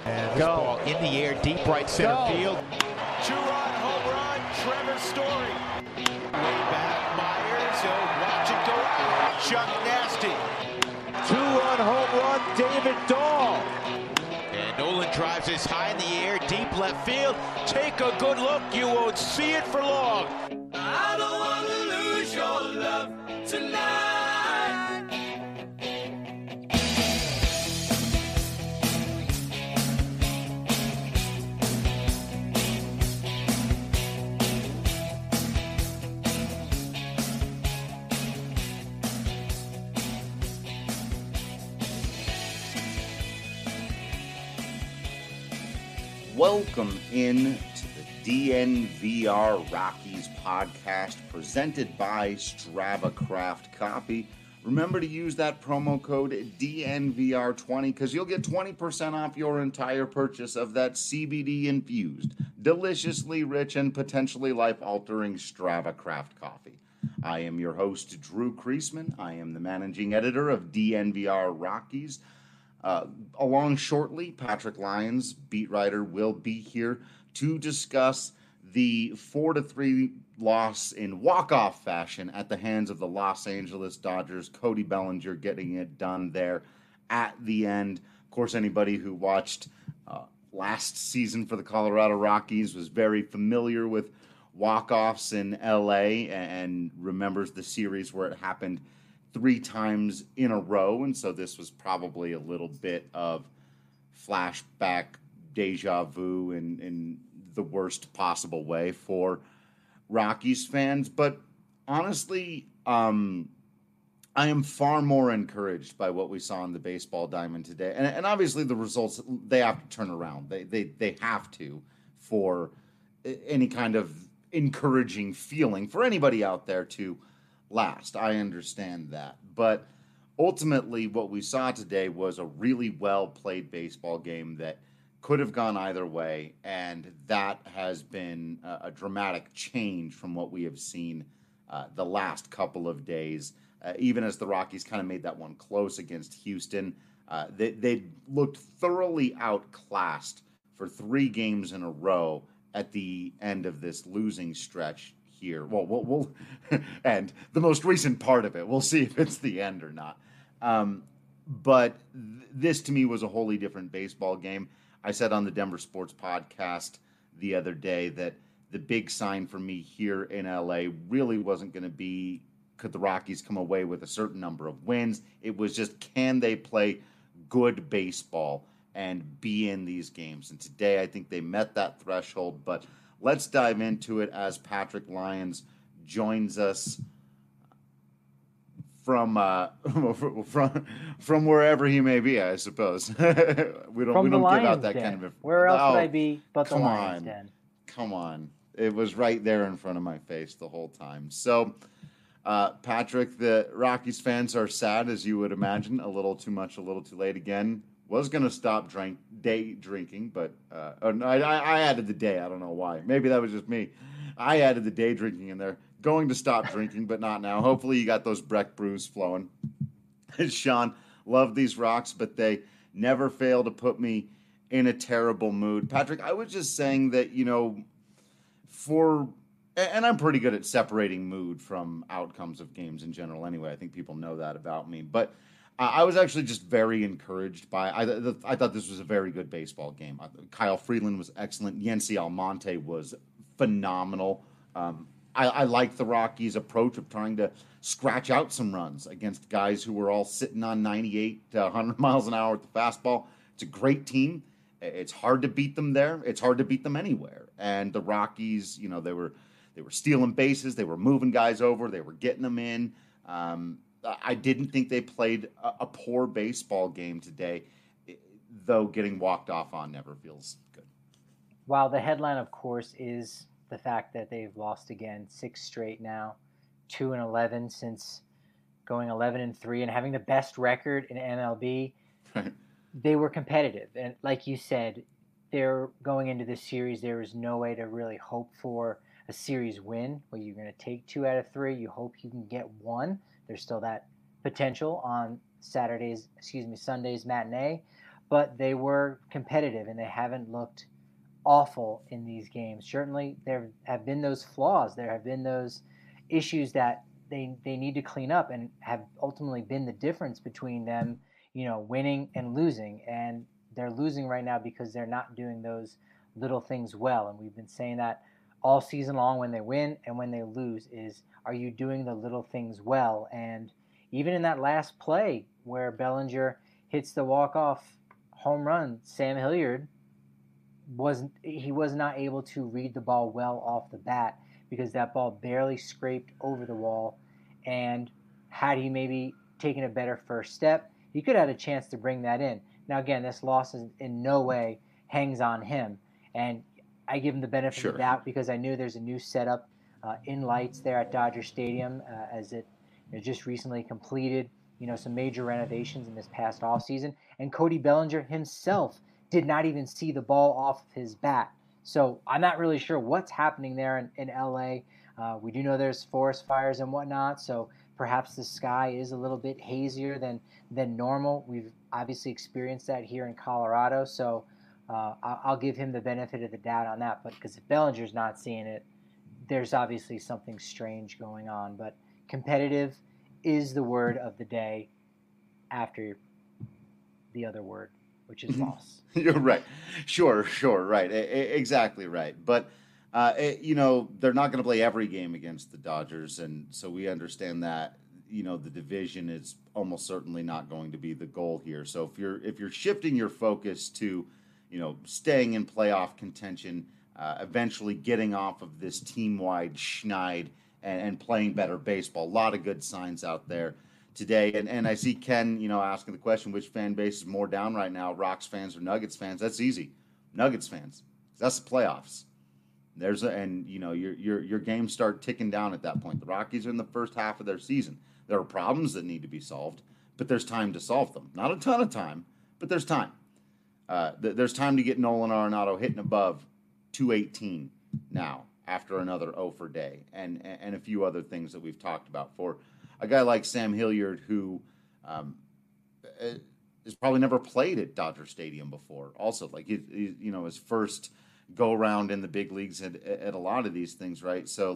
And this ball in the air, deep right center field. Two-run home run, Trevor Story. Way back, Myers. Watch it go out. Chuck Nasty. Two-run home run, David Dahl. And Nolan drives this high in the air, deep left field. Take a good look, you won't see it for long. I don't want to lose your love tonight. Welcome in to the DNVR Rockies podcast presented by Strava Craft Coffee. Remember to use that promo code DNVR20 because you'll get 20% off your entire purchase of that CBD-infused, deliciously rich, and potentially life-altering Strava Craft Coffee. I am your host, Drew Kreisman. I am the managing editor of DNVR Rockies. Along shortly, Patrick Lyons, beat writer, will be here to discuss the 4-3 loss in walk-off fashion at the hands of the Los Angeles Dodgers. Cody Bellinger getting it done there at the end. Of course, anybody who watched last season for the Colorado Rockies was very familiar with walk-offs in LA and remembers the series where it happened 3 times in a row, and so this was probably a little bit of flashback deja vu in the worst possible way for Rockies fans. But honestly, I am far more encouraged by what we saw in the baseball diamond today. And obviously the results, they have to turn around. They have to for any kind of encouraging feeling for anybody out there to last. I understand that. But ultimately, what we saw today was a really well-played baseball game that could have gone either way, and that has been a dramatic change from what we have seen the last couple of days. Even as the Rockies kind of made that one close against Houston, they looked thoroughly outclassed for 3 games in a row at the end of this losing stretch here. Well, we'll and the most recent part of it, we'll see if it's the end or not. But this to me was a wholly different baseball game. I said on the Denver Sports Podcast the other day that the big sign for me here in LA really wasn't going to be could the Rockies come away with a certain number of wins. It was just, can they play good baseball and be in these games? And today I think they met that threshold. But let's dive into it as Patrick Lyons joins us from wherever he may be, I suppose. we don't give out that kind of. Where else would I be but the Lions Den? Come on, it was right there in front of my face the whole time. So, Patrick, the Rockies fans are sad, as you would imagine. A little too much, a little too late again. Was going to stop day drinking, but I added the day. I don't know why. Maybe that was just me. I added the day drinking in there. Going to stop drinking, but not now. Hopefully you got those Breck brews flowing. Sean, love these rocks, but they never fail to put me in a terrible mood. Patrick, I was just saying that, and I'm pretty good at separating mood from outcomes of games in general anyway. I think people know that about me. But I was actually just very encouraged by I thought this was a very good baseball game. Kyle Freeland was excellent. Yency Almonte was phenomenal. I liked the Rockies' approach of trying to scratch out some runs against guys who were all sitting on 98 to 100 miles an hour at the fastball. It's a great team. It's hard to beat them there. It's hard to beat them anywhere. And the Rockies, they were stealing bases. They were moving guys over. They were getting them in. I didn't think they played a poor baseball game today, though getting walked off on never feels good. While the headline, of course, is the fact that they've lost again 6 straight now, 2-11 since going 11-3 and having the best record in MLB. They were competitive. And like you said, they're going into this series. There is no way to really hope for a series win where you're going to take 2 out of 3. You hope you can get 1. There's still that potential on Sunday's matinee. but they were competitive and they haven't looked awful in these games. Certainly, there have been those flaws. There have been those issues that they need to clean up and have ultimately been the difference between them, winning and losing. And they're losing right now because they're not doing those little things well. And we've been saying that all season long when they win and when they lose is, are you doing the little things well? And even in that last play where Bellinger hits the walk-off home run, Sam Hilliard was not able to read the ball well off the bat because that ball barely scraped over the wall. And had he maybe taken a better first step, he could have had a chance to bring that in. Now, again, this loss is in no way hangs on him. And I give him the benefit of the doubt because I knew there's a new setup in lights there at Dodger Stadium as it just recently completed, some major renovations in this past offseason. And Cody Bellinger himself did not even see the ball off of his bat. So I'm not really sure what's happening there in LA. We do know there's forest fires and whatnot, so perhaps the sky is a little bit hazier than normal. We've obviously experienced that here in Colorado, so I'll give him the benefit of the doubt on that. But because if Bellinger's not seeing it, there's obviously something strange going on. But competitive is the word of the day after the other word, which is loss. You're right. Sure, right. Exactly right. But, they're not going to play every game against the Dodgers, and so we understand that, the division is almost certainly not going to be the goal here. So if you're shifting your focus to, staying in playoff contention, eventually getting off of this team-wide schneid and playing better baseball, a lot of good signs out there today. And I see Ken, asking the question, which fan base is more down right now, Rocks fans or Nuggets fans? That's easy. Nuggets fans. That's the playoffs. Your games start ticking down at that point. The Rockies are in the first half of their season. There are problems that need to be solved, but there's time to solve them. Not a ton of time, but there's time. There's time to get Nolan Arenado hitting above 218 now after another 0 for day and a few other things that we've talked about for a guy like Sam Hilliard, who has probably never played at Dodger Stadium before. Also, like his first go around in the big leagues at a lot of these things, right? So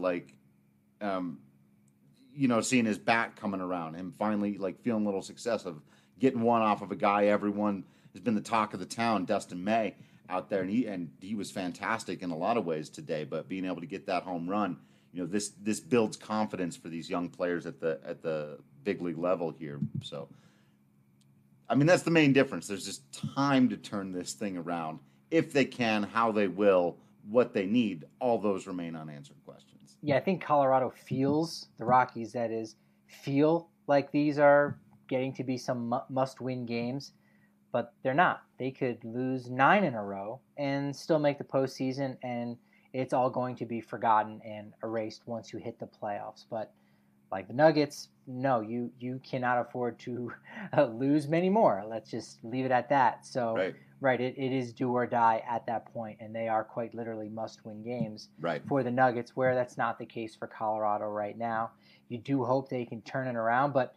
seeing his bat coming around and finally feeling a little success of getting one off of a guy everyone has been the talk of the town, Dustin May, out there, and he was fantastic in a lot of ways today. But being able to get that home run, this builds confidence for these young players at the big league level here. So, I mean, that's the main difference. There's just time to turn this thing around. If they can, how they will, what they need, all those remain unanswered questions. Yeah, I think Colorado feels, the Rockies that is, feel like these are getting to be some must-win games, but they're not. They could lose 9 in a row and still make the postseason, and it's all going to be forgotten and erased once you hit the playoffs. But like the Nuggets, no, you cannot afford to lose many more. Let's just leave it at that. So, right, it is do or die at that point, and they are quite literally must-win games for the Nuggets, where that's not the case for Colorado right now. You do hope they can turn it around, but,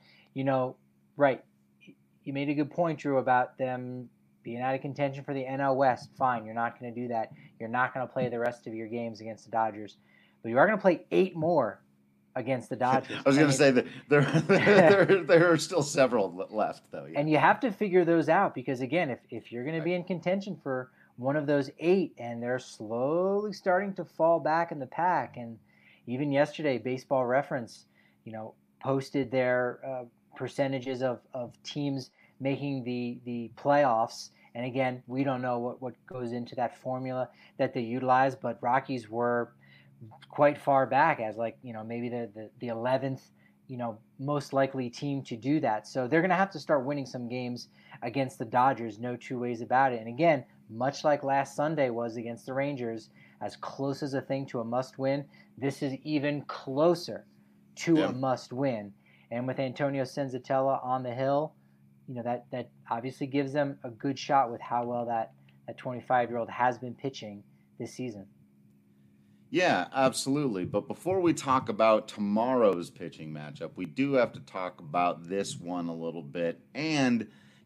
you made a good point, Drew, about them being out of contention for the NL West. Fine, you're not going to do that. You're not going to play the rest of your games against the Dodgers, but you are going to play 8 more against the Dodgers. I was going to say that there are still several left, though. Yeah. And you have to figure those out because, again, if you're going to be in contention for one of those 8 and they're slowly starting to fall back in the pack, and even yesterday, Baseball Reference, posted their percentages of teams making the playoffs. And again, we don't know what goes into that formula that they utilize, but Rockies were quite far back as maybe the 11th, most likely team to do that. So they're going to have to start winning some games against the Dodgers, no two ways about it. And again, much like last Sunday was against the Rangers, as close as a thing to a must-win, this is even closer to a must-win. And with Antonio Senzatella on the hill, that obviously gives them a good shot with how well that 25-year-old has been pitching this season. Yeah, absolutely. But before we talk about tomorrow's pitching matchup, we do have to talk about this one a little bit and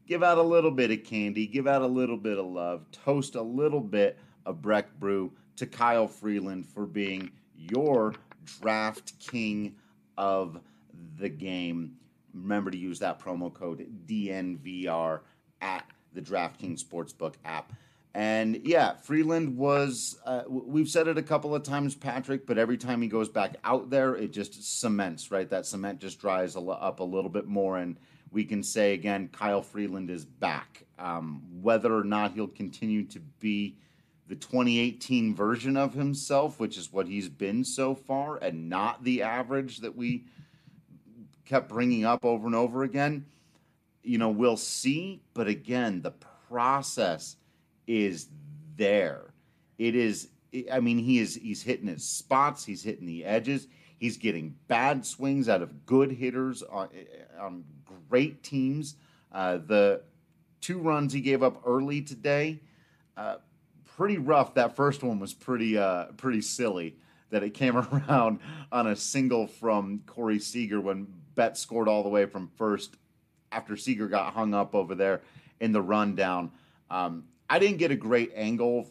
give out a little bit of candy, give out a little bit of love, toast a little bit of Breck Brew to Kyle Freeland for being your draft king of the game. Remember to use that promo code DNVR at the DraftKings Sportsbook app. And yeah, Freeland was, we've said it a couple of times, Patrick, but every time he goes back out there, it just cements, right? That cement just dries up a little bit more. And we can say again, Kyle Freeland is back. Whether or not he'll continue to be the 2018 version of himself, which is what he's been so far, and not the average that we kept bringing up over and over again, we'll see. But again, the process is there. He's hitting his spots, he's hitting the edges, he's getting bad swings out of good hitters on great teams. The 2 runs he gave up early today, pretty rough. That first one was pretty silly, that it came around on a single from Corey Seager when Betts scored all the way from first after Seager got hung up over there in the rundown. I didn't get a great angle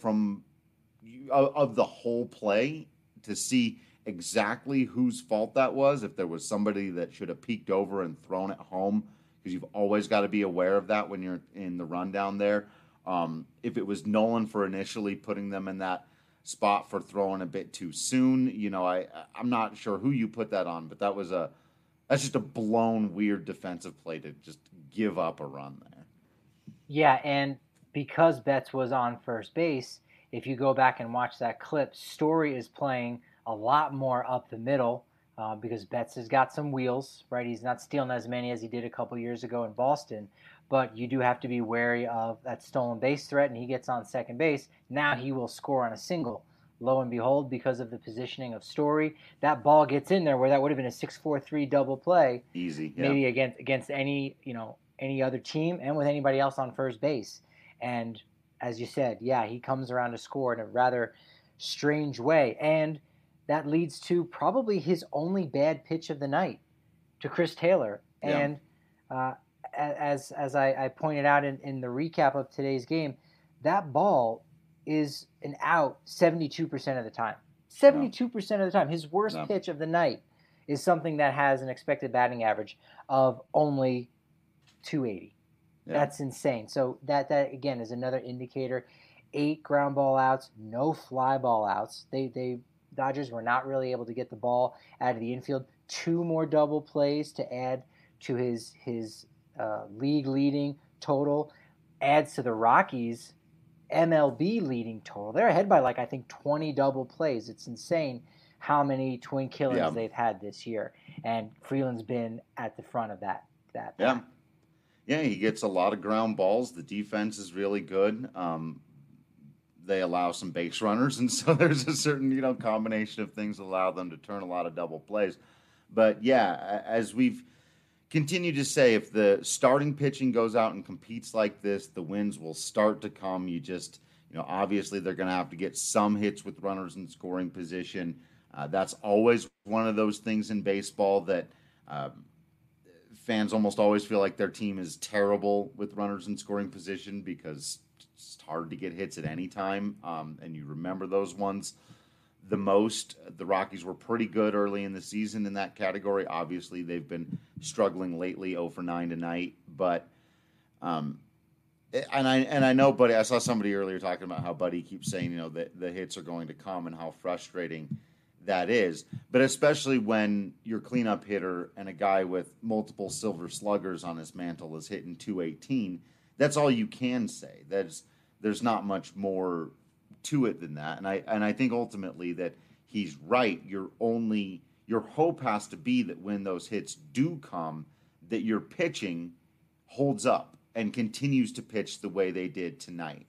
of the whole play to see exactly whose fault that was, if there was somebody that should have peeked over and thrown it home, because you've always got to be aware of that when you're in the rundown there. If it was Nolan for initially putting them in that spot for throwing a bit too soon, I'm not sure who you put that on, but that's just a blown, weird defensive play to just give up a run there. Yeah, and because Betts was on first base, if you go back and watch that clip, Story is playing a lot more up the middle because Betts has got some wheels, right? He's not stealing as many as he did a couple years ago in Boston, but you do have to be wary of that stolen base threat, and he gets on second base. Now he will score on a single. Lo and behold, because of the positioning of Story, that ball gets in there where that would have been a 6-4-3 double play. Easy, yeah. Maybe against any other team and with anybody else on first base. And as you said, yeah, he comes around to score in a rather strange way. And that leads to probably his only bad pitch of the night to Chris Taylor. Yeah. And as I pointed out in the recap of today's game, that ball is an out 72% of the time. 72% of the time. His worst pitch of the night is something that has an expected batting average of only 280. Yeah. That's insane. So that again is another indicator. 8 ground ball outs, no fly ball outs. They Dodgers were not really able to get the ball out of the infield. 2 more double plays to add to his league leading total. Adds to the Rockies' MLB leading total. They're ahead by I think 20 double plays. It's insane how many twin killings they've had this year. And Freeland's been at the front of that. Yeah. Yeah, he gets a lot of ground balls. The defense is really good. They allow some base runners, and so there's a certain, combination of things that allow them to turn a lot of double plays. But yeah, as we've continued to say, if the starting pitching goes out and competes like this, the wins will start to come. You just, obviously they're going to have to get some hits with runners in scoring position. That's always one of those things in baseball that fans almost always feel like their team is terrible with runners in scoring position because it's hard to get hits at any time, and you remember those ones the most. The Rockies were pretty good early in the season in that category. Obviously, they've been struggling lately, 0 for 9 tonight. But and I know, Buddy, I saw somebody earlier talking about how Buddy keeps saying, that the hits are going to come and how frustrating that is. But especially when your cleanup hitter and a guy with multiple silver sluggers on his mantle is hitting 218, that's all you can say. There's not much more to it than that. And I think ultimately that he's right. Your hope has to be that when those hits do come, that your pitching holds up and continues to pitch the way they did tonight.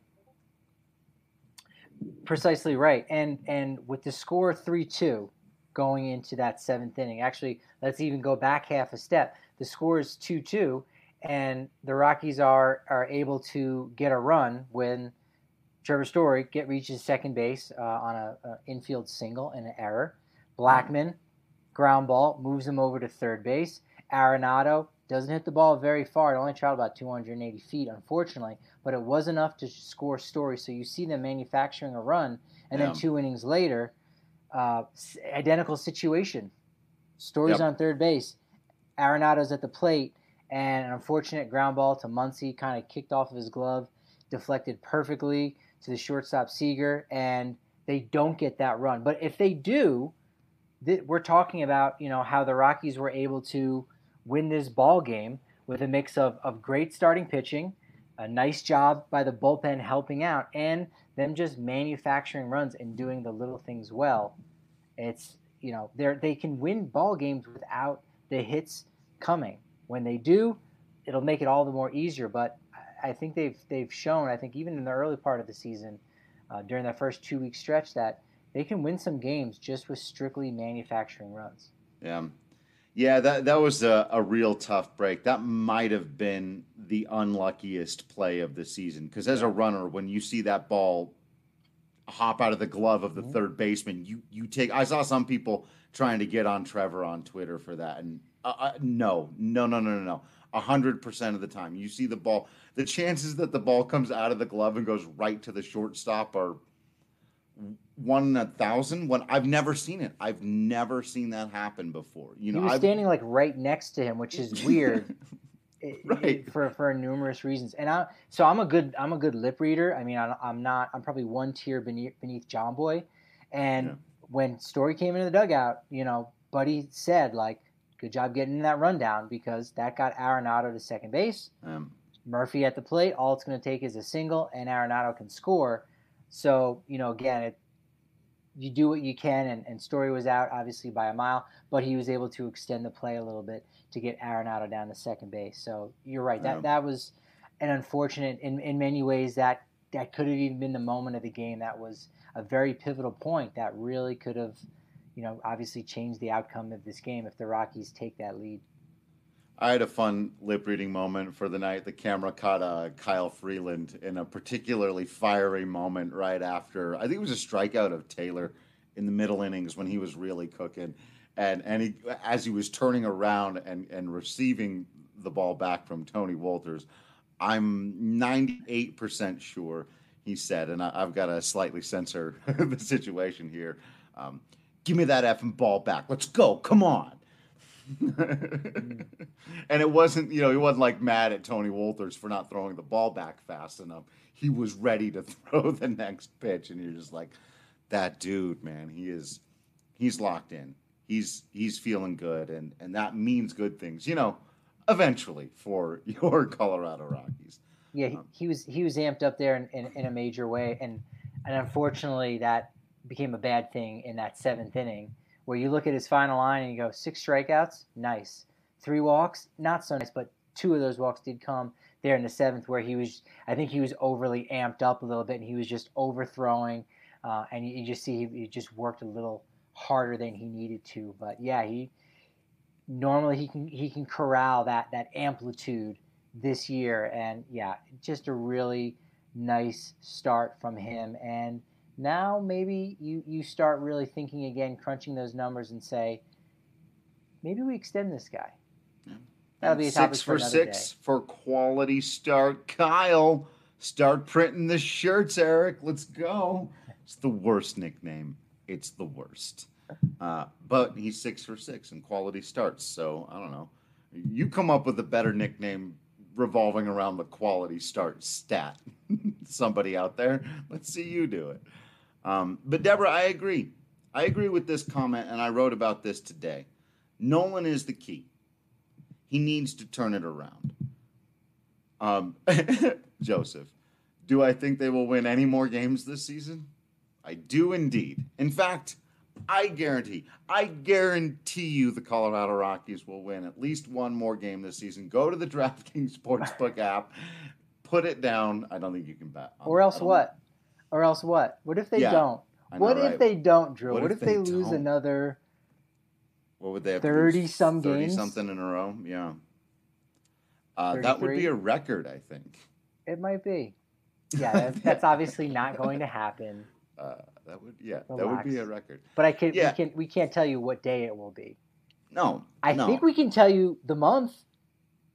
Precisely right. And with the score 3-2 going into that 7th inning, actually, let's even go back half a step. The score is 2-2, and the Rockies are able to get a run when Trevor Story reaches second base on an infield single and an error. Blackman, ground ball, moves him over to third base. Arenado Doesn't hit the ball very far. It only traveled about 280 feet, unfortunately, but it was enough to score Story. So you see them manufacturing a run, and then 2 innings later, identical situation. Story's on third base. Arenado's at the plate, and an unfortunate ground ball to Muncy kind of kicked off of his glove, deflected perfectly to the shortstop Seager, and they don't get that run. But if they do, we're talking about, how the Rockies were able to win this ball game with a mix of great starting pitching, a nice job by the bullpen helping out, and them just manufacturing runs and doing the little things well. It's, they can win ball games without the hits coming. When they do, it'll make it all the more easier. But I think they've shown, I think even in the early part of the season, during that first 2-week stretch, that they can win some games just with strictly manufacturing runs. Yeah, that was a real tough break. That might have been the unluckiest play of the season, because as a runner, when you see that ball hop out of the glove of the third baseman, you take. I saw some people trying to get on Trevor on Twitter for that, and no. 100% of the time, you see the ball. The chances that the ball comes out of the glove and goes right to the shortstop are 1 in 1,000. When I've never seen it. I've never seen that happen before. He was standing like right next to him, which is weird. Right. For numerous reasons. And I'm a good lip reader. I mean, I'm probably one tier beneath John Boy. And when Story came into the dugout, Buddy said, like, good job getting in that rundown, because that got Arenado to second base. Murphy at the plate. All it's going to take is a single, and Arenado can score. So, again, you do what you can, and Story was out, obviously, by a mile, but he was able to extend the play a little bit to get Arenado down to second base. So you're right. That was an unfortunate, in many ways, that could have even been the moment of the game. That was a very pivotal point that really could have, obviously changed the outcome of this game if the Rockies take that lead. I had a fun lip-reading moment for the night. The camera caught Kyle Freeland in a particularly fiery moment right after, I think it was a strikeout of Taylor in the middle innings when he was really cooking. And he, as he was turning around and receiving the ball back from Tony Wolters, I'm 98% sure he said, and I've got to slightly censor the situation here, give me that effing ball back. Let's go. Come on. And it wasn't, he wasn't like mad at Tony Wolters for not throwing the ball back fast enough. He was ready to throw the next pitch, and you're just like, that dude, man, he's locked in. He's feeling good, and that means good things, eventually for your Colorado Rockies. Yeah, he was amped up there in a major way, and unfortunately that became a bad thing in that 7th inning, where you look at his final line and you go, 6 strikeouts, nice. 3 walks, not so nice, but 2 of those walks did come there in the 7th, where I think he was overly amped up a little bit, and he was just overthrowing, and you just see he just worked a little harder than he needed to. But yeah, he can corral that amplitude this year, and yeah, just a really nice start from him. And now maybe you start really thinking again, crunching those numbers, and say, maybe we extend this guy. That'll be a topic for another day. 6 for 6 for quality start. Kyle, start printing the shirts, Eric. Let's go. It's the worst nickname. It's the worst. But he's 6 for 6 in quality starts. So I don't know. You come up with a better nickname revolving around the quality start stat. Somebody out there, let's see you do it. But Deborah, I agree. I agree with this comment, and I wrote about this today. Nolan is the key. He needs to turn it around. Joseph, do I think they will win any more games this season? I do indeed. In fact, I guarantee you the Colorado Rockies will win at least one more game this season. Go to the DraftKings Sportsbook app, put it down. I don't think you can bet. Or else what? What if they don't? If they don't, Drew? What if they lose another? What would they have? 30-some games? 30-something in a row? Yeah. That would be a record, I think. It might be. Yeah, that's obviously not going to happen. That would be a record. But we can't tell you what day it will be. No. I think we can tell you the month.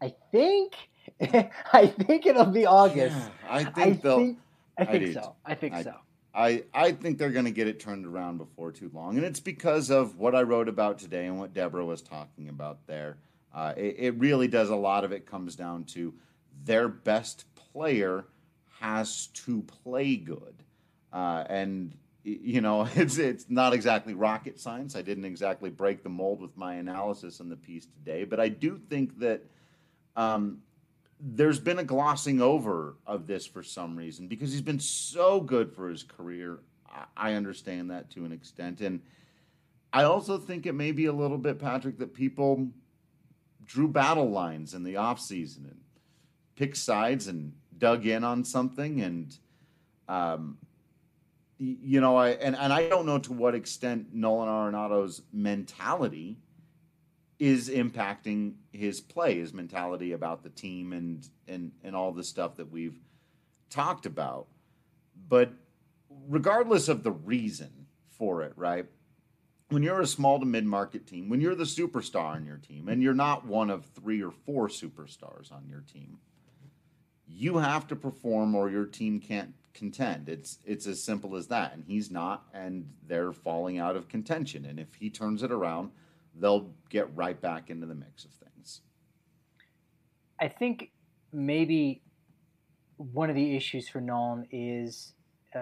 I think I think it'll be August. Yeah, I think so. I think so. I think they're going to get it turned around before too long, and it's because of what I wrote about today and what Deborah was talking about there. It really does. A lot of it comes down to their best player has to play good, and it's not exactly rocket science. I didn't exactly break the mold with my analysis in the piece today, but I do think that there's been a glossing over of this for some reason because he's been so good for his career. I understand that to an extent, and I also think it may be a little bit, Patrick, that people drew battle lines in the offseason and picked sides and dug in on something, and I don't know to what extent Nolan Arenado's mentality is impacting his play, his mentality about the team and all the stuff that we've talked about. But regardless of the reason for it, right? When you're a small to mid-market team, when you're the superstar on your team, and you're not one of 3 or 4 superstars on your team, you have to perform or your team can't contend. It's as simple as that. And he's not, and they're falling out of contention. And if he turns it around, they'll get right back into the mix of things. I think maybe one of the issues for Nolan is,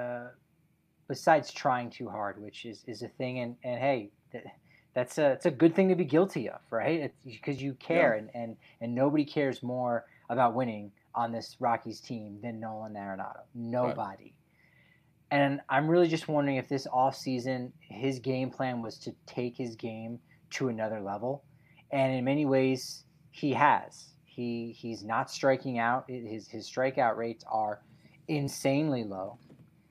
besides trying too hard, which is a thing, and hey, it's a good thing to be guilty of, right? It's because you care, yeah. and nobody cares more about winning on this Rockies team than Nolan Arenado. Nobody. Right. And I'm really just wondering if this offseason, his game plan was to take his game to another level. And in many ways, he has. He's not striking out. His strikeout rates are insanely low.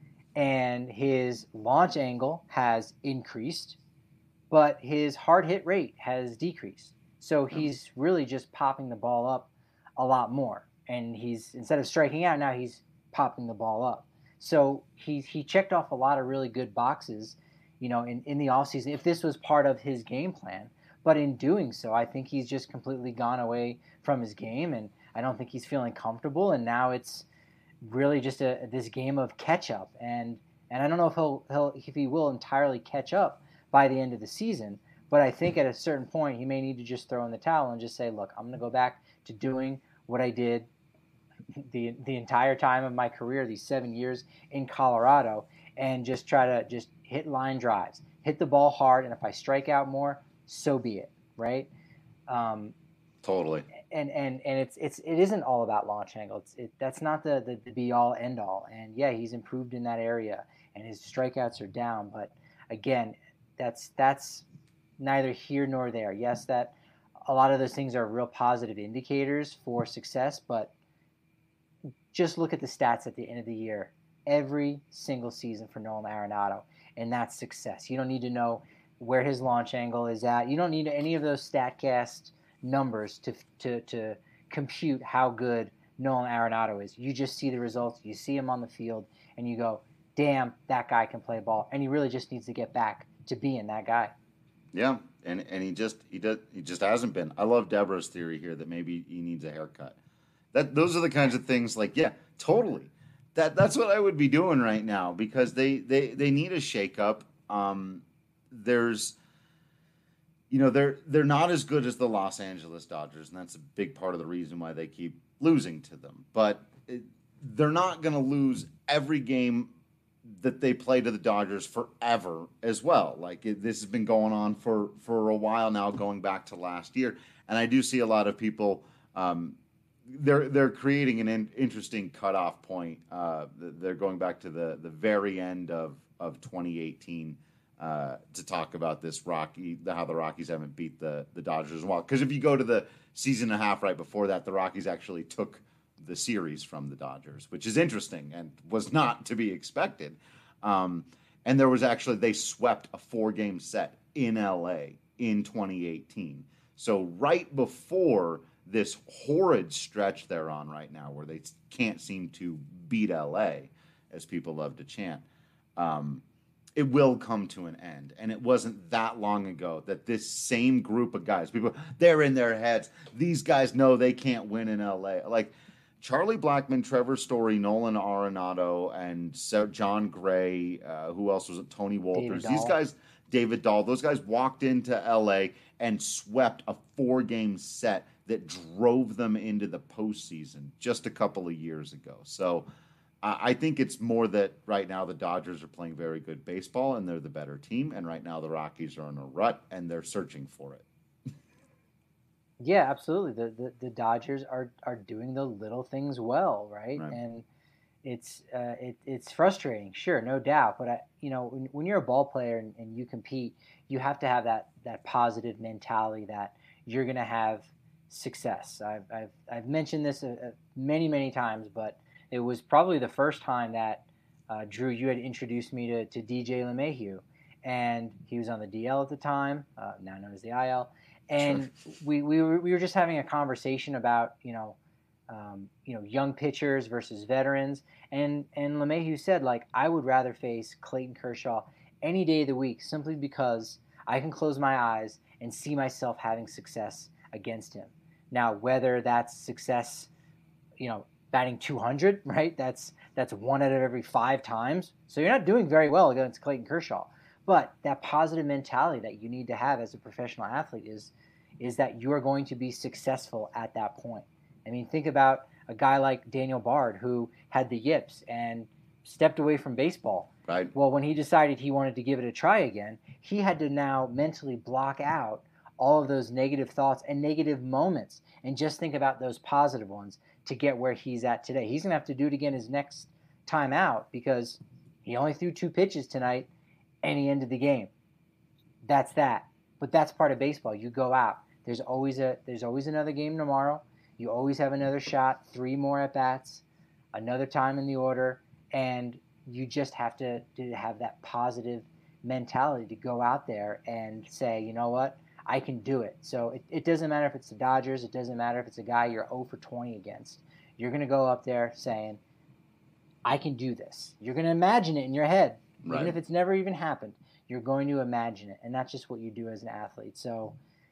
And his launch angle has increased, but his hard hit rate has decreased. So he's really just popping the ball up a lot more. And he's, instead of striking out, now he's popping the ball up. So he checked off a lot of really good boxes, in the offseason, if this was part of his game plan. But in doing so, I think he's just completely gone away from his game, and I don't think he's feeling comfortable. And now it's really just this game of catch up. And I don't know if he will entirely catch up by the end of the season. But I think at a certain point, he may need to just throw in the towel and just say, look, I'm going to go back to doing what I did the entire time of my career, these 7 years in Colorado, and just try to just hit line drives, hit the ball hard, and if I strike out more, so be it, right? Totally. And it isn't all about launch angle. That's not the be all end all. And yeah, he's improved in that area, and his strikeouts are down. But again, that's neither here nor there. Yes, that a lot of those things are real positive indicators for success, but just look at the stats at the end of the year, every single season for Nolan Arenado, and that's success. You don't need to know where his launch angle is at. You don't need any of those StatCast numbers to compute how good Nolan Arenado is. You just see the results. You see him on the field, and you go, damn, that guy can play ball. And he really just needs to get back to being that guy. Yeah, and he just hasn't been. I love Deborah's theory here that maybe he needs a haircut. Those are the kinds of things like, yeah, totally. That's what I would be doing right now because they need a shakeup. There's, they're not as good as the Los Angeles Dodgers, and that's a big part of the reason why they keep losing to them. But they're not going to lose every game that they play to the Dodgers forever as well. Like this has been going on for a while now, going back to last year, and I do see a lot of people. They're creating an interesting cutoff point. They're going back to the very end of 2018 to talk about this how the Rockies haven't beat the Dodgers as well. Because if you go to the season and a half right before that, the Rockies actually took the series from the Dodgers, which is interesting and was not to be expected. And there was they swept a 4-game set in LA in 2018. So right before this horrid stretch they're on right now where they can't seem to beat LA, as people love to chant. it will come to an end. And it wasn't that long ago that this same group of guys, people, they're in their heads. These guys know they can't win in LA. Like Charlie Blackmon, Trevor Story, Nolan Arenado, and John Gray, who else was it? Tony Wolters. These guys, David Dahl, those guys walked into LA and swept a 4-game set that drove them into the postseason just a couple of years ago. So I think it's more that right now the Dodgers are playing very good baseball and they're the better team. And right now the Rockies are in a rut and they're searching for it. Yeah, absolutely. The Dodgers are doing the little things well, right? And it's frustrating, sure, no doubt. But when you're a ball player and you compete, you have to have that positive mentality that you're going to have success. I've mentioned this many times, but it was probably the first time that Drew, you had introduced me to DJ LeMahieu, and he was on the DL at the time, now known as the IL. And sure. we were just having a conversation about young pitchers versus veterans, and LeMahieu said, like, I would rather face Clayton Kershaw any day of the week simply because I can close my eyes and see myself having success against him. Now, whether that's success, batting 200, right? That's 1 out of every 5 times. So you're not doing very well against Clayton Kershaw. But that positive mentality that you need to have as a professional athlete is that you are going to be successful at that point. I mean, think about a guy like Daniel Bard who had the yips and stepped away from baseball. Right. Well, when he decided he wanted to give it a try again, he had to now mentally block out all of those negative thoughts and negative moments and just think about those positive ones to get where he's at today. He's going to have to do it again his next time out because he only threw 2 pitches tonight and he ended the game. That's that. But that's part of baseball. You go out. There's always another game tomorrow. You always have another shot, 3 more at-bats, another time in the order, and you just have to have that positive mentality to go out there and say, you know what, I can do it. So it doesn't matter if it's the Dodgers. It doesn't matter if it's a guy you're 0 for 20 against. You're going to go up there saying, I can do this. You're going to imagine it in your head. Right. Even if it's never even happened, you're going to imagine it. And that's just what you do as an athlete. So,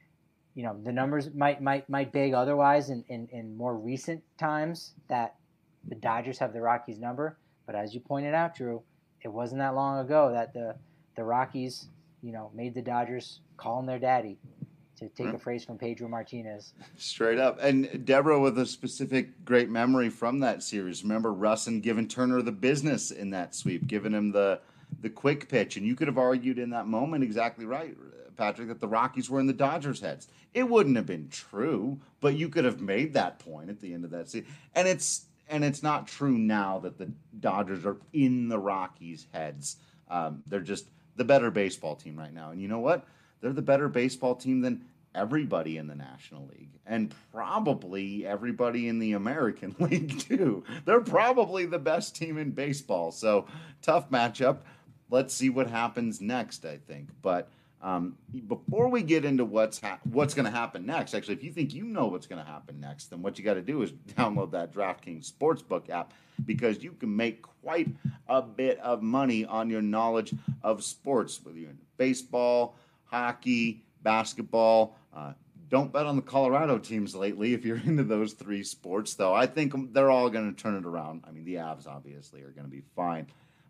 the numbers might beg otherwise in more recent times that the Dodgers have the Rockies number. But as you pointed out, Drew, it wasn't that long ago that the Rockies, made the Dodgers call him their daddy, to take a phrase from Pedro Martinez. Straight up. And Deborah with a specific great memory from that series. Remember Russin giving Turner the business in that sweep, giving him the quick pitch. And you could have argued in that moment exactly right, Patrick, that the Rockies were in the Dodgers' heads. It wouldn't have been true, but you could have made that point at the end of that season. And it's not true now that the Dodgers are in the Rockies' heads. They're just the better baseball team right now. And you know what? They're the better baseball team than everybody in the National League and probably everybody in the American League too. They're probably the best team in baseball. So tough matchup. Let's see what happens next, I think. But before we get into what's going to happen next, actually, if you think you know what's going to happen next, then what you got to do is download that DraftKings Sportsbook app because you can make quite a bit of money on your knowledge of sports, whether you're in baseball, hockey, basketball. Don't bet on the Colorado teams lately if you're into those 3 sports, though. I think they're all going to turn it around. I mean, the Avs obviously are going to be fine.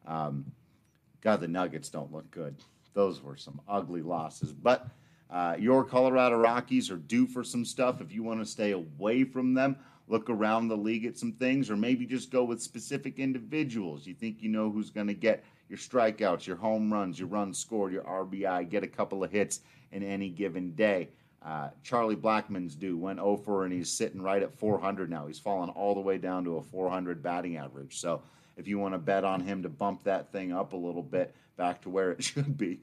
God, the Nuggets don't look good. Those were some ugly losses. But your Colorado Rockies are due for some stuff. If you want to stay away from them, look around the league at some things, or maybe just go with specific individuals. You think you know who's going to get your strikeouts, your home runs, your runs scored, your RBI, get a couple of hits in any given day. Charlie Blackmon's due, went 0 for, and he's sitting right at 400 now. He's fallen all the way down to a 400 batting average. So if you want to bet on him to bump that thing up a little bit back to where it should be,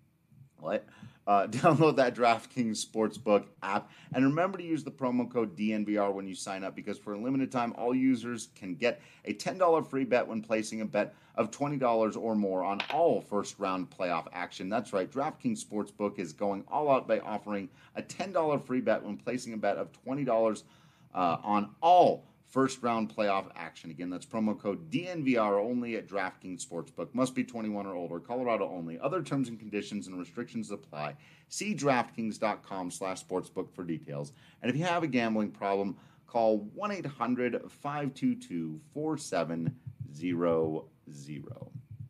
download that DraftKings Sportsbook app. And remember to use the promo code DNVR when you sign up, because for a limited time, all users can get a $10 free bet when placing a bet of $20 or more on all first-round playoff action. That's right, DraftKings Sportsbook is going all out by offering a $10 free bet when placing a bet of $20 on all first-round playoff action. Again, that's promo code DNVR only at DraftKings Sportsbook. Must be 21 or older. Colorado only. Other terms and conditions and restrictions apply. See DraftKings.com/sportsbook for details. And if you have a gambling problem, call 1-800-522-4700.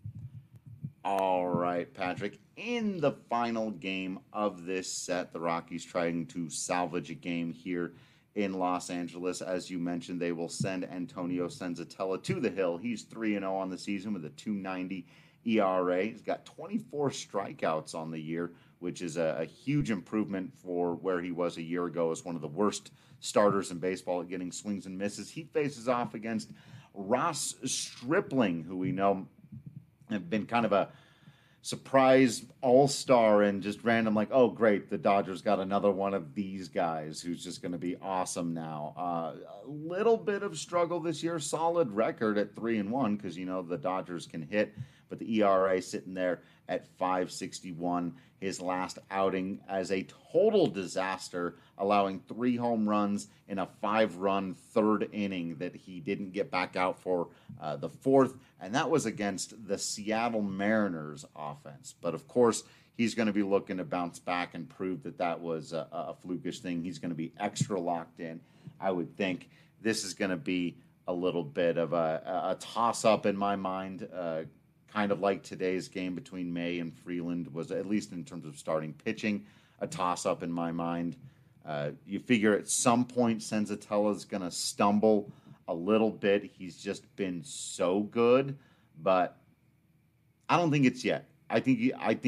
All right, Patrick. In the final game of this set, the Rockies trying to salvage a game here in Los Angeles. As you mentioned, they will send Antonio Senzatella to the hill. He's 3-0 on the season with a 2.90 ERA. He's got 24 strikeouts on the year, which is a huge improvement for where he was a year ago as one of the worst starters in baseball at getting swings and misses. He faces off against Ross Stripling, who we know have been kind of a surprise all-star and just random, like, oh, great, the Dodgers got another one of these guys who's just going to be awesome now. A little bit of struggle this year, solid record at 3-1 because, you know, the Dodgers can hit, but the ERA sitting there at 5.61. His last outing as a total disaster, allowing 3 home runs in a 5-run third inning that he didn't get back out for the fourth, and that was against the Seattle Mariners offense. But, of course, he's going to be looking to bounce back and prove that that was a flukish thing. He's going to be extra locked in. I would think this is going to be a little bit of a toss-up in my mind, kind of like today's game between May and Freeland was, at least in terms of starting pitching, a toss-up in my mind. You figure at some point Senzatella's going to stumble a little bit. He's just been so good, but I don't think it's yet. I think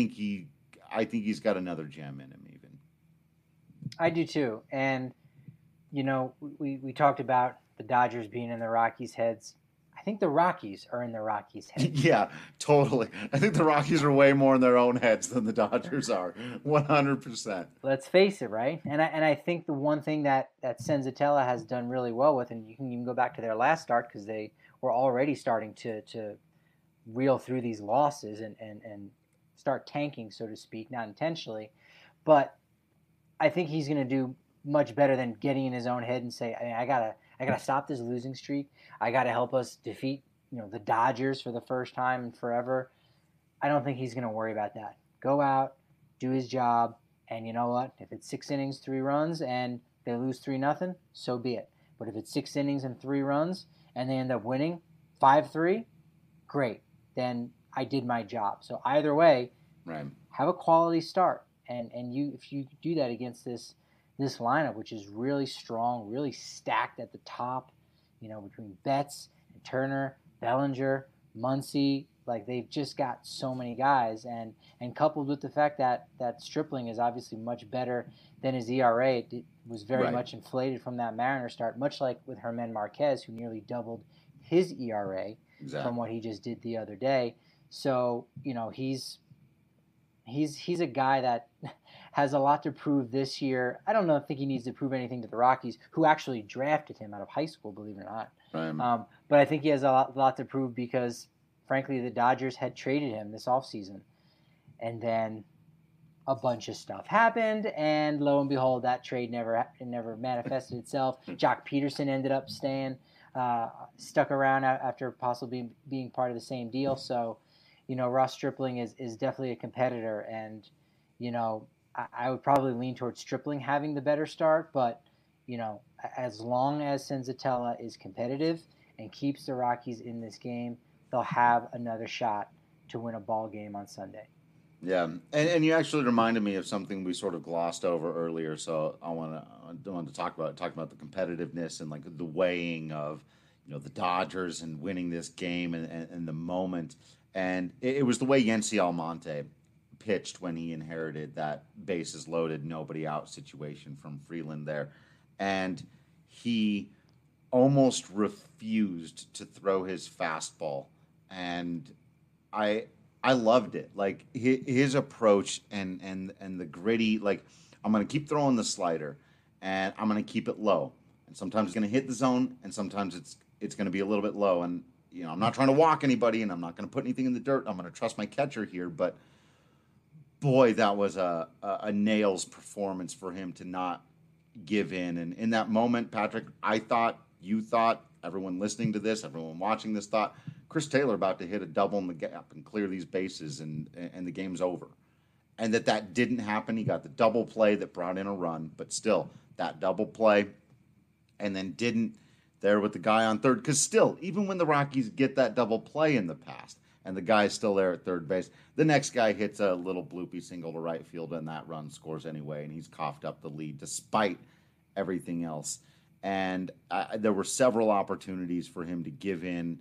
he's got another gem in him even. I do too. And, you know, we talked about the Dodgers being in the Rockies' heads. I think the Rockies are in the Rockies' heads. Yeah, totally. I think the Rockies are way more in their own heads than the Dodgers are, 100%. Let's face it, right? And I think the one thing that Senzatella has done really well with, and you can even go back to their last start because they were already starting to reel through these losses and start tanking, so to speak, not intentionally. But I think he's going to do much better than getting in his own head and say, I gotta stop this losing streak. I gotta help us defeat, you know, the Dodgers for the first time in forever. I don't think he's gonna worry about that. Go out, do his job, and you know what? If it's 6 innings, 3 runs, and they lose 3-0, so be it. But if it's 6 innings and 3 runs, and they end up winning 5-3, great. Then I did my job. So either way, right, have a quality start, and if you do that against this lineup, which is really strong, really stacked at the top, you know, between Betts and Turner, Bellinger, Muncy, like they've just got so many guys, and coupled with the fact that Stripling is obviously much better than his ERA, it was very much inflated from that Mariner start, much like with Germán Marquez, who nearly doubled his ERA from what he just did the other day. So, you know, he's a guy that has a lot to prove this year. I don't think he needs to prove anything to the Rockies, who actually drafted him out of high school, believe it or not. Right. But I think he has a lot to prove because, frankly, the Dodgers had traded him this offseason. And then a bunch of stuff happened, and lo and behold, that trade never manifested itself. Jock Peterson ended up stuck around after possibly being part of the same deal. So, you know, Ross Stripling is definitely a competitor, and, you know, I would probably lean towards Stripling having the better start, but, you know, as long as Senzatella is competitive and keeps the Rockies in this game, they'll have another shot to win a ball game on Sunday. Yeah, and you actually reminded me of something we sort of glossed over earlier, so I want to talk about the competitiveness and like the weighing of, you know, the Dodgers and winning this game and the moment. And it was the way Yency Almonte pitched when he inherited that bases loaded, nobody out situation from Freeland there. And he almost refused to throw his fastball. And I loved it. Like his approach and the gritty, like, I'm going to keep throwing the slider and I'm going to keep it low. And sometimes it's going to hit the zone and sometimes it's going to be a little bit low. And, you know, I'm not trying to walk anybody and I'm not going to put anything in the dirt. I'm going to trust my catcher here. But boy, that was a nails performance for him to not give in. And in that moment, Patrick, I thought you thought, everyone listening to this, everyone watching this thought, Chris Taylor about to hit a double in the gap and clear these bases and the game's over. And that didn't happen. He got the double play that brought in a run, but still, that double play, and then didn't there with the guy on third. Because still, even when the Rockies get that double play in the past, and the guy's still there at third base, the next guy hits a little bloopy single to right field, and that run scores anyway, and he's coughed up the lead despite everything else. And there were several opportunities for him to give in.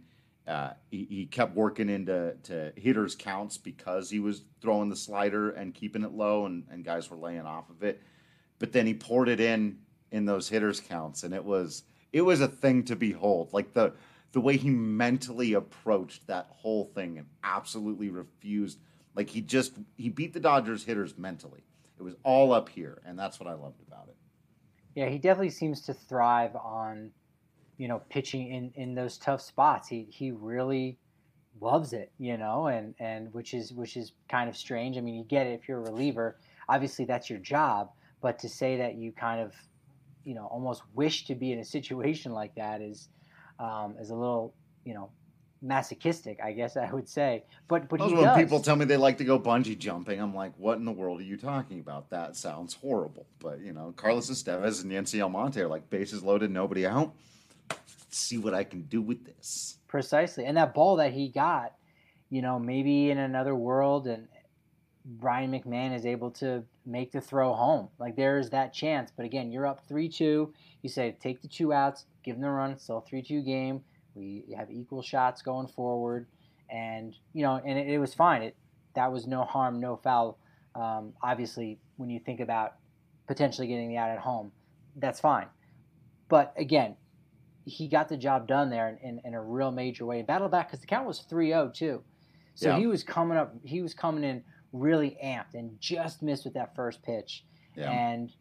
He kept working into hitters' counts because he was throwing the slider and keeping it low, and guys were laying off of it. But then he poured it in those hitters' counts, and it was a thing to behold. Like the way he mentally approached that whole thing and absolutely refused. Like he beat the Dodgers hitters mentally. It was all up here, and that's what I loved about it. Yeah, he definitely seems to thrive on, pitching in those tough spots. He really loves it, and which is kind of strange. I mean, you get it if you're a reliever. Obviously, that's your job. But to say that you kind of, almost wish to be in a situation like that is a little, masochistic, I guess I would say. But he does. When people tell me they like to go bungee jumping, I'm like, what in the world are you talking about? That sounds horrible. But, Carlos Estevez and Yency Almonte are like, bases loaded, nobody out. Let's see what I can do with this. Precisely. And that ball that he got, maybe in another world and Ryan McMahon is able to make the throw home. Like, there's that chance. But again, you're up 3-2. You say, take the 2 outs, give them the run. It's still a 3-2 game. We have equal shots going forward. And, and it was fine. That was no harm, no foul. Obviously, when you think about potentially getting the out at home, that's fine. But again, he got the job done there in a real major way. Battled back because the count was 3-0 too. So yeah. He was coming in really amped and just missed with that first pitch. Yeah. And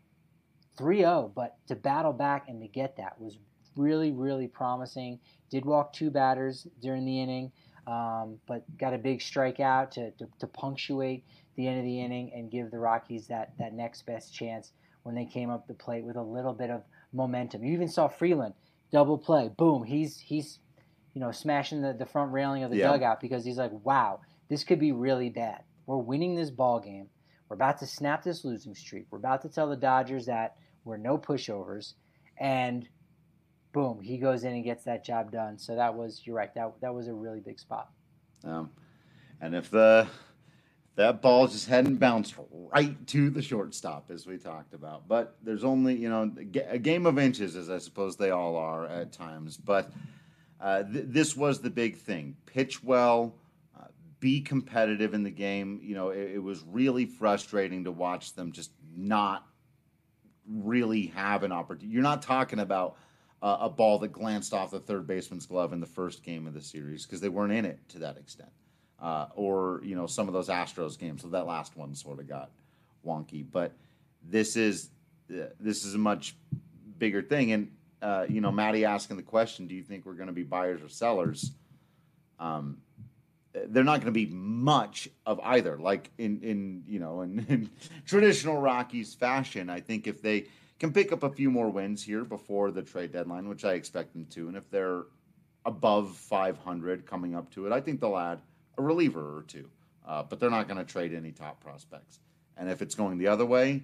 3-0, but to battle back and to get that was really, really promising. Did walk 2 batters during the inning, but got a big strikeout to punctuate the end of the inning and give the Rockies that next best chance when they came up the plate with a little bit of momentum. You even saw Freeland double play, boom, he's smashing the front railing of the dugout because he's like, wow, this could be really bad. We're winning this ball game. We're about to snap this losing streak. We're about to tell the Dodgers that we're no pushovers, and boom, he goes in and gets that job done. So you're right, that was a really big spot. And if that ball just hadn't bounced right to the shortstop, as we talked about. But there's only, a game of inches, as I suppose they all are at times. But this was the big thing. Pitch well, be competitive in the game. It was really frustrating to watch them just not really have an opportunity. You're not talking about a ball that glanced off the third baseman's glove in the first game of the series because they weren't in it to that extent. Or some of those Astros games. So that last one sort of got wonky. But this is a much bigger thing. And Maddie asking the question, do you think we're going to be buyers or sellers? They're not going to be much of either. Like in traditional Rockies fashion, I think if they can pick up a few more wins here before the trade deadline, which I expect them to, and if they're above 500 coming up to it, I think they'll add a reliever or 2, but they're not going to trade any top prospects. And if it's going the other way,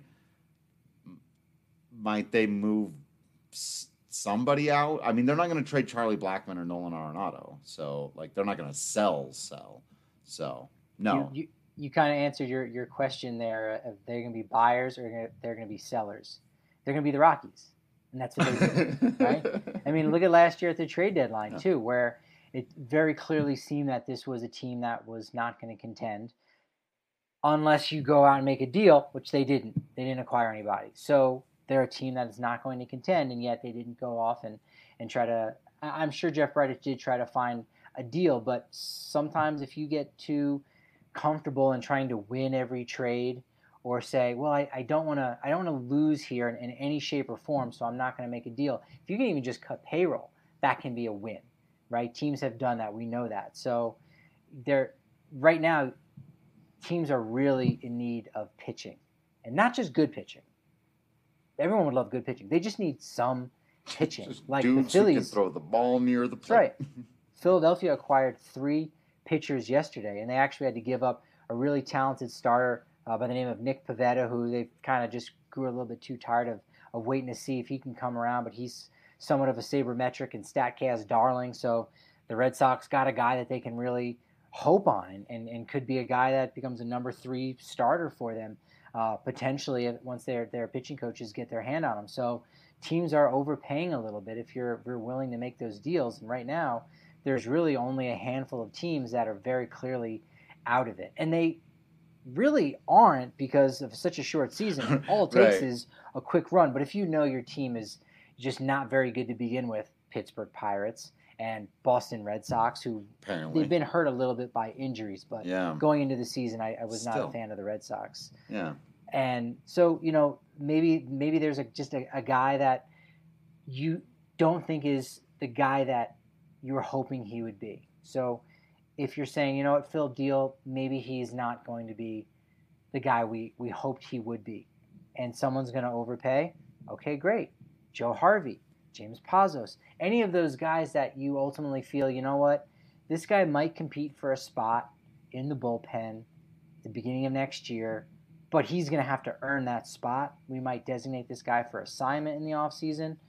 might they move somebody out? I mean, they're not going to trade Charlie Blackmon or Nolan Arenado, so they're not going to sell. So no. You kind of answered your question there. If they're going to be buyers or they're going to be sellers. They're going to be the Rockies, and that's what they do, right? I mean, look at last year at the trade deadline too, where it very clearly seemed that this was a team that was not going to contend unless you go out and make a deal, which they didn't. They didn't acquire anybody. So they're a team that is not going to contend, and yet they didn't go off and try to – I'm sure Jeff Bridich did try to find a deal, but sometimes if you get too comfortable in trying to win every trade or say, well, I don't want to lose here in any shape or form, so I'm not going to make a deal. If you can even just cut payroll, that can be a win. Right? Teams have done that. We know that. So right now, teams are really in need of pitching. And not just good pitching. Everyone would love good pitching. They just need some pitching. Just Like the dudes who can Phillies. throw the ball near the That's plate. right. Philadelphia acquired 3 pitchers yesterday, and they actually had to give up a really talented starter by the name of Nick Pivetta, who they kind of just grew a little bit too tired of waiting to see if he can come around, but he's somewhat of a sabermetric and StatCast darling, so the Red Sox got a guy that they can really hope on and could be a guy that becomes a number 3 starter for them, potentially once their pitching coaches get their hand on him. So teams are overpaying a little bit if you're willing to make those deals, and right now there's really only a handful of teams that are very clearly out of it. And they really aren't because of such a short season. All it takes is a quick run. But if you know your team is just not very good to begin with, Pittsburgh Pirates and Boston Red Sox, who they've been hurt a little bit by injuries, but going into the season, I was not a fan of the Red Sox. Yeah. And so, maybe there's just a guy that you don't think is the guy that you were hoping he would be. So if you're saying, you know what, Phil Deal, maybe he's not going to be the guy we hoped he would be, and someone's going to overpay, okay, great. Joe Harvey, James Pazos, any of those guys that you ultimately feel, you know what, this guy might compete for a spot in the bullpen at the beginning of next year, but he's going to have to earn that spot. We might designate this guy for assignment in the offseason.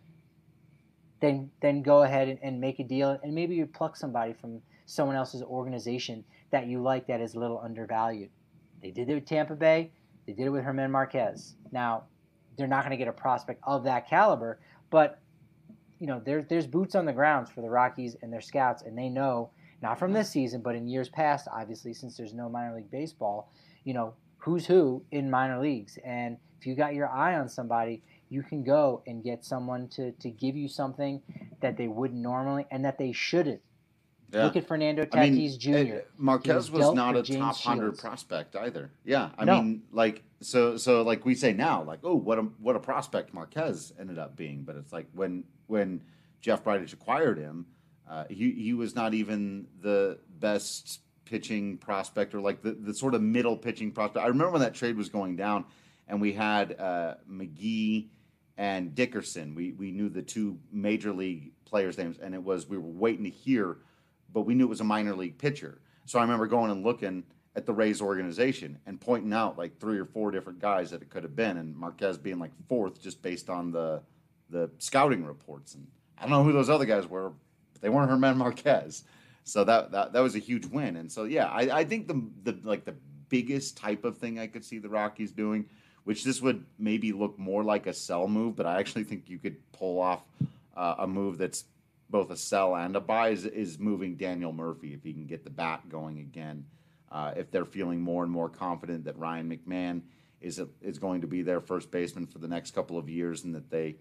Then go ahead and make a deal, and maybe you pluck somebody from someone else's organization that you like that is a little undervalued. They did it with Tampa Bay. They did it with Germán Márquez. Now, they're not going to get a prospect of that caliber, but there's boots on the ground for the Rockies and their scouts, and they know, not from this season, but in years past, obviously, since there's no minor league baseball, who's who in minor leagues. And if you got your eye on somebody, you can go and get someone to give you something that they wouldn't normally and that they shouldn't. Yeah. Look at Fernando Tatis Jr. Marquez was not a top 100 prospect either. Yeah, I mean, so like we say now, like, oh, what a prospect Marquez ended up being. But it's like when Jeff Bridich acquired him, he was not even the best pitching prospect or like the sort of middle pitching prospect. I remember when that trade was going down, and we had McGee and Dickerson. We knew the 2 major league players' names, and we were waiting to hear. But we knew it was a minor league pitcher. So I remember going and looking at the Rays organization and pointing out like 3 or 4 different guys that it could have been, and Marquez being like 4th just based on the scouting reports. And I don't know who those other guys were, but they weren't Germán Márquez. So that was a huge win. And so yeah, I think the biggest type of thing I could see the Rockies doing, which this would maybe look more like a sell move, but I actually think you could pull off a move that's both a sell and a buy, is moving Daniel Murphy if he can get the bat going again. If they're feeling more and more confident that Ryan McMahon is going to be their first baseman for the next couple of years, and that they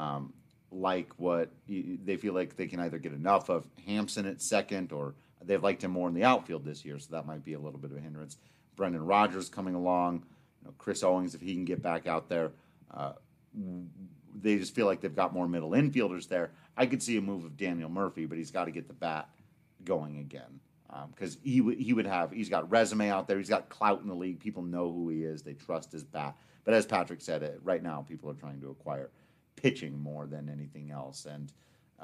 they feel like they can either get enough of Hampson at second, or they've liked him more in the outfield this year, so that might be a little bit of a hindrance. Brendan Rodgers coming along, Chris Owings, if he can get back out there. They just feel like they've got more middle infielders there. I could see a move of Daniel Murphy, but he's got to get the bat going again, because he's got resume out there. He's got clout in the league. People know who he is. They trust his bat. But as Patrick said, right now people are trying to acquire pitching more than anything else. And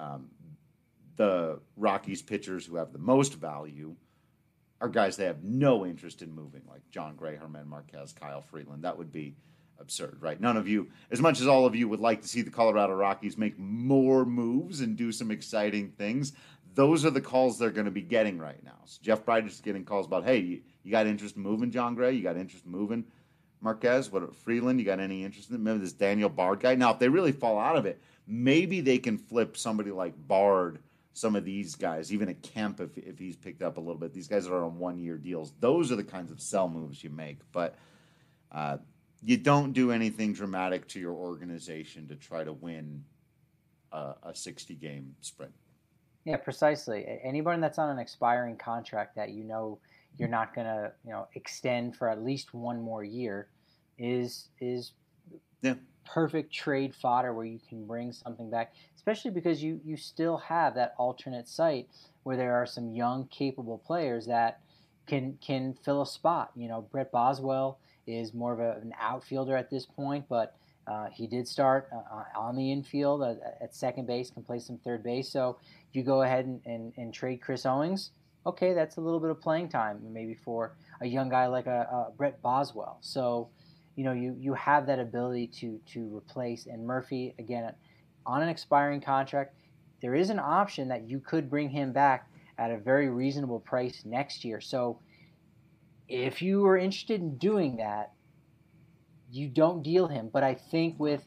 the Rockies pitchers who have the most value are guys they have no interest in moving, like John Gray, Germán Márquez, Kyle Freeland. That would be absurd, right? None of you, as much as all of you would like to see the Colorado Rockies make more moves and do some exciting things, those are the calls they're going to be getting right now. So Jeff Bridich is getting calls about, hey, you got interest in moving John Gray? You got interest in moving Marquez? What, Freeland? You got any interest in it? Maybe this Daniel Bard guy? Now, if they really fall out of it, maybe they can flip somebody like Bard, some of these guys, even a Kemp if he's picked up a little bit. These guys are on one-year deals. Those are the kinds of sell moves you make. But you don't do anything dramatic to your organization to try to win a 60-game sprint. Yeah, precisely. Anybody that's on an expiring contract that you're not going to extend for at least one more year is perfect trade fodder where you can bring something back, especially because you still have that alternate site where there are some young, capable players that can fill a spot. Brett Boswell is more of an outfielder at this point, but He did start on the infield at second base, can play some third base. So you go ahead and trade Chris Owings. Okay, that's a little bit of playing time, maybe for a young guy like a Brett Boswell. So, you have that ability to replace. And Murphy, again, on an expiring contract, there is an option that you could bring him back at a very reasonable price next year. So if you are interested in doing that, you don't deal him. But I think with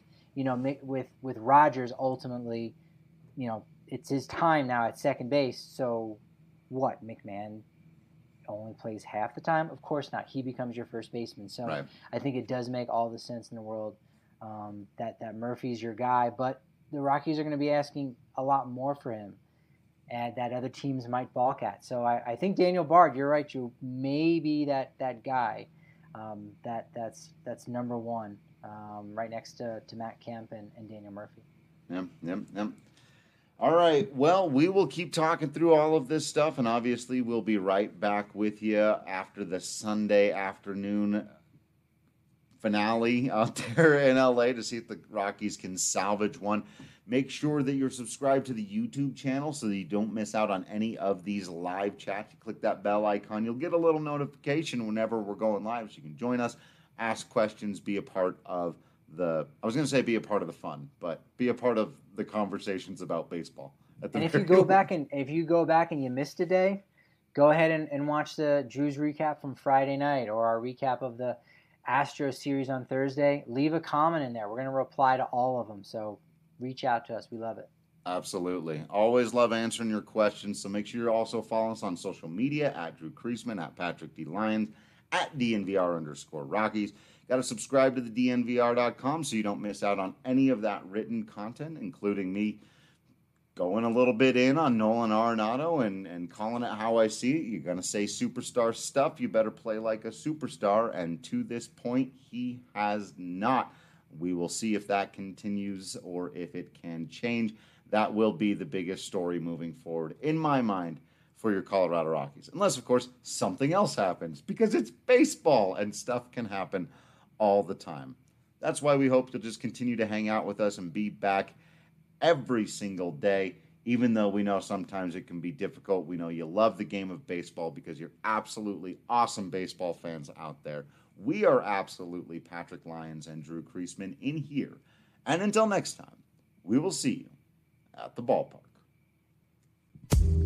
Rogers, ultimately, it's his time now at second base. So what, McMahon only plays half the time? Of course not. He becomes your first baseman. So right. I think it does make all the sense in the world that Murphy's your guy. But the Rockies are going to be asking a lot more for him, and that other teams might balk at. So I think Daniel Bard, you're right, you may be that guy that's number one, right next to Matt Kemp and Daniel Murphy. Yep. All right, well, we will keep talking through all of this stuff, and obviously we'll be right back with you after the Sunday afternoon finale out there in LA to see if the Rockies can salvage one. Make sure that you're subscribed to the YouTube channel so that you don't miss out on any of these live chats. You click that bell icon, you'll get a little notification whenever we're going live, so you can join us, ask questions, be a part of be a part of the fun, but be a part of the conversations about baseball. And if you go back and you missed a day, go ahead and watch the Drew's recap from Friday night or our recap of the Astros series on Thursday. Leave a comment in there. We're going to reply to all of them. So reach out to us. We love it. Absolutely. Always love answering your questions. So make sure you're also following us on social media at Drew Creasman, at Patrick D. Lyons, at DNVR_Rockies. Got to subscribe to the DNVR.com so you don't miss out on any of that written content, including me going a little bit in on Nolan Arenado and calling it how I see it. You're going to say superstar stuff. You better play like a superstar. And to this point, he has not. We will see if that continues or if it can change. That will be the biggest story moving forward, in my mind, for your Colorado Rockies. Unless, of course, something else happens, because it's baseball and stuff can happen all the time. That's why we hope to just continue to hang out with us and be back every single day, even though we know sometimes it can be difficult. We know you love the game of baseball because you're absolutely awesome baseball fans out there. We are absolutely Patrick Lyons and Drew Creasman in here. And until next time, we will see you at the ballpark.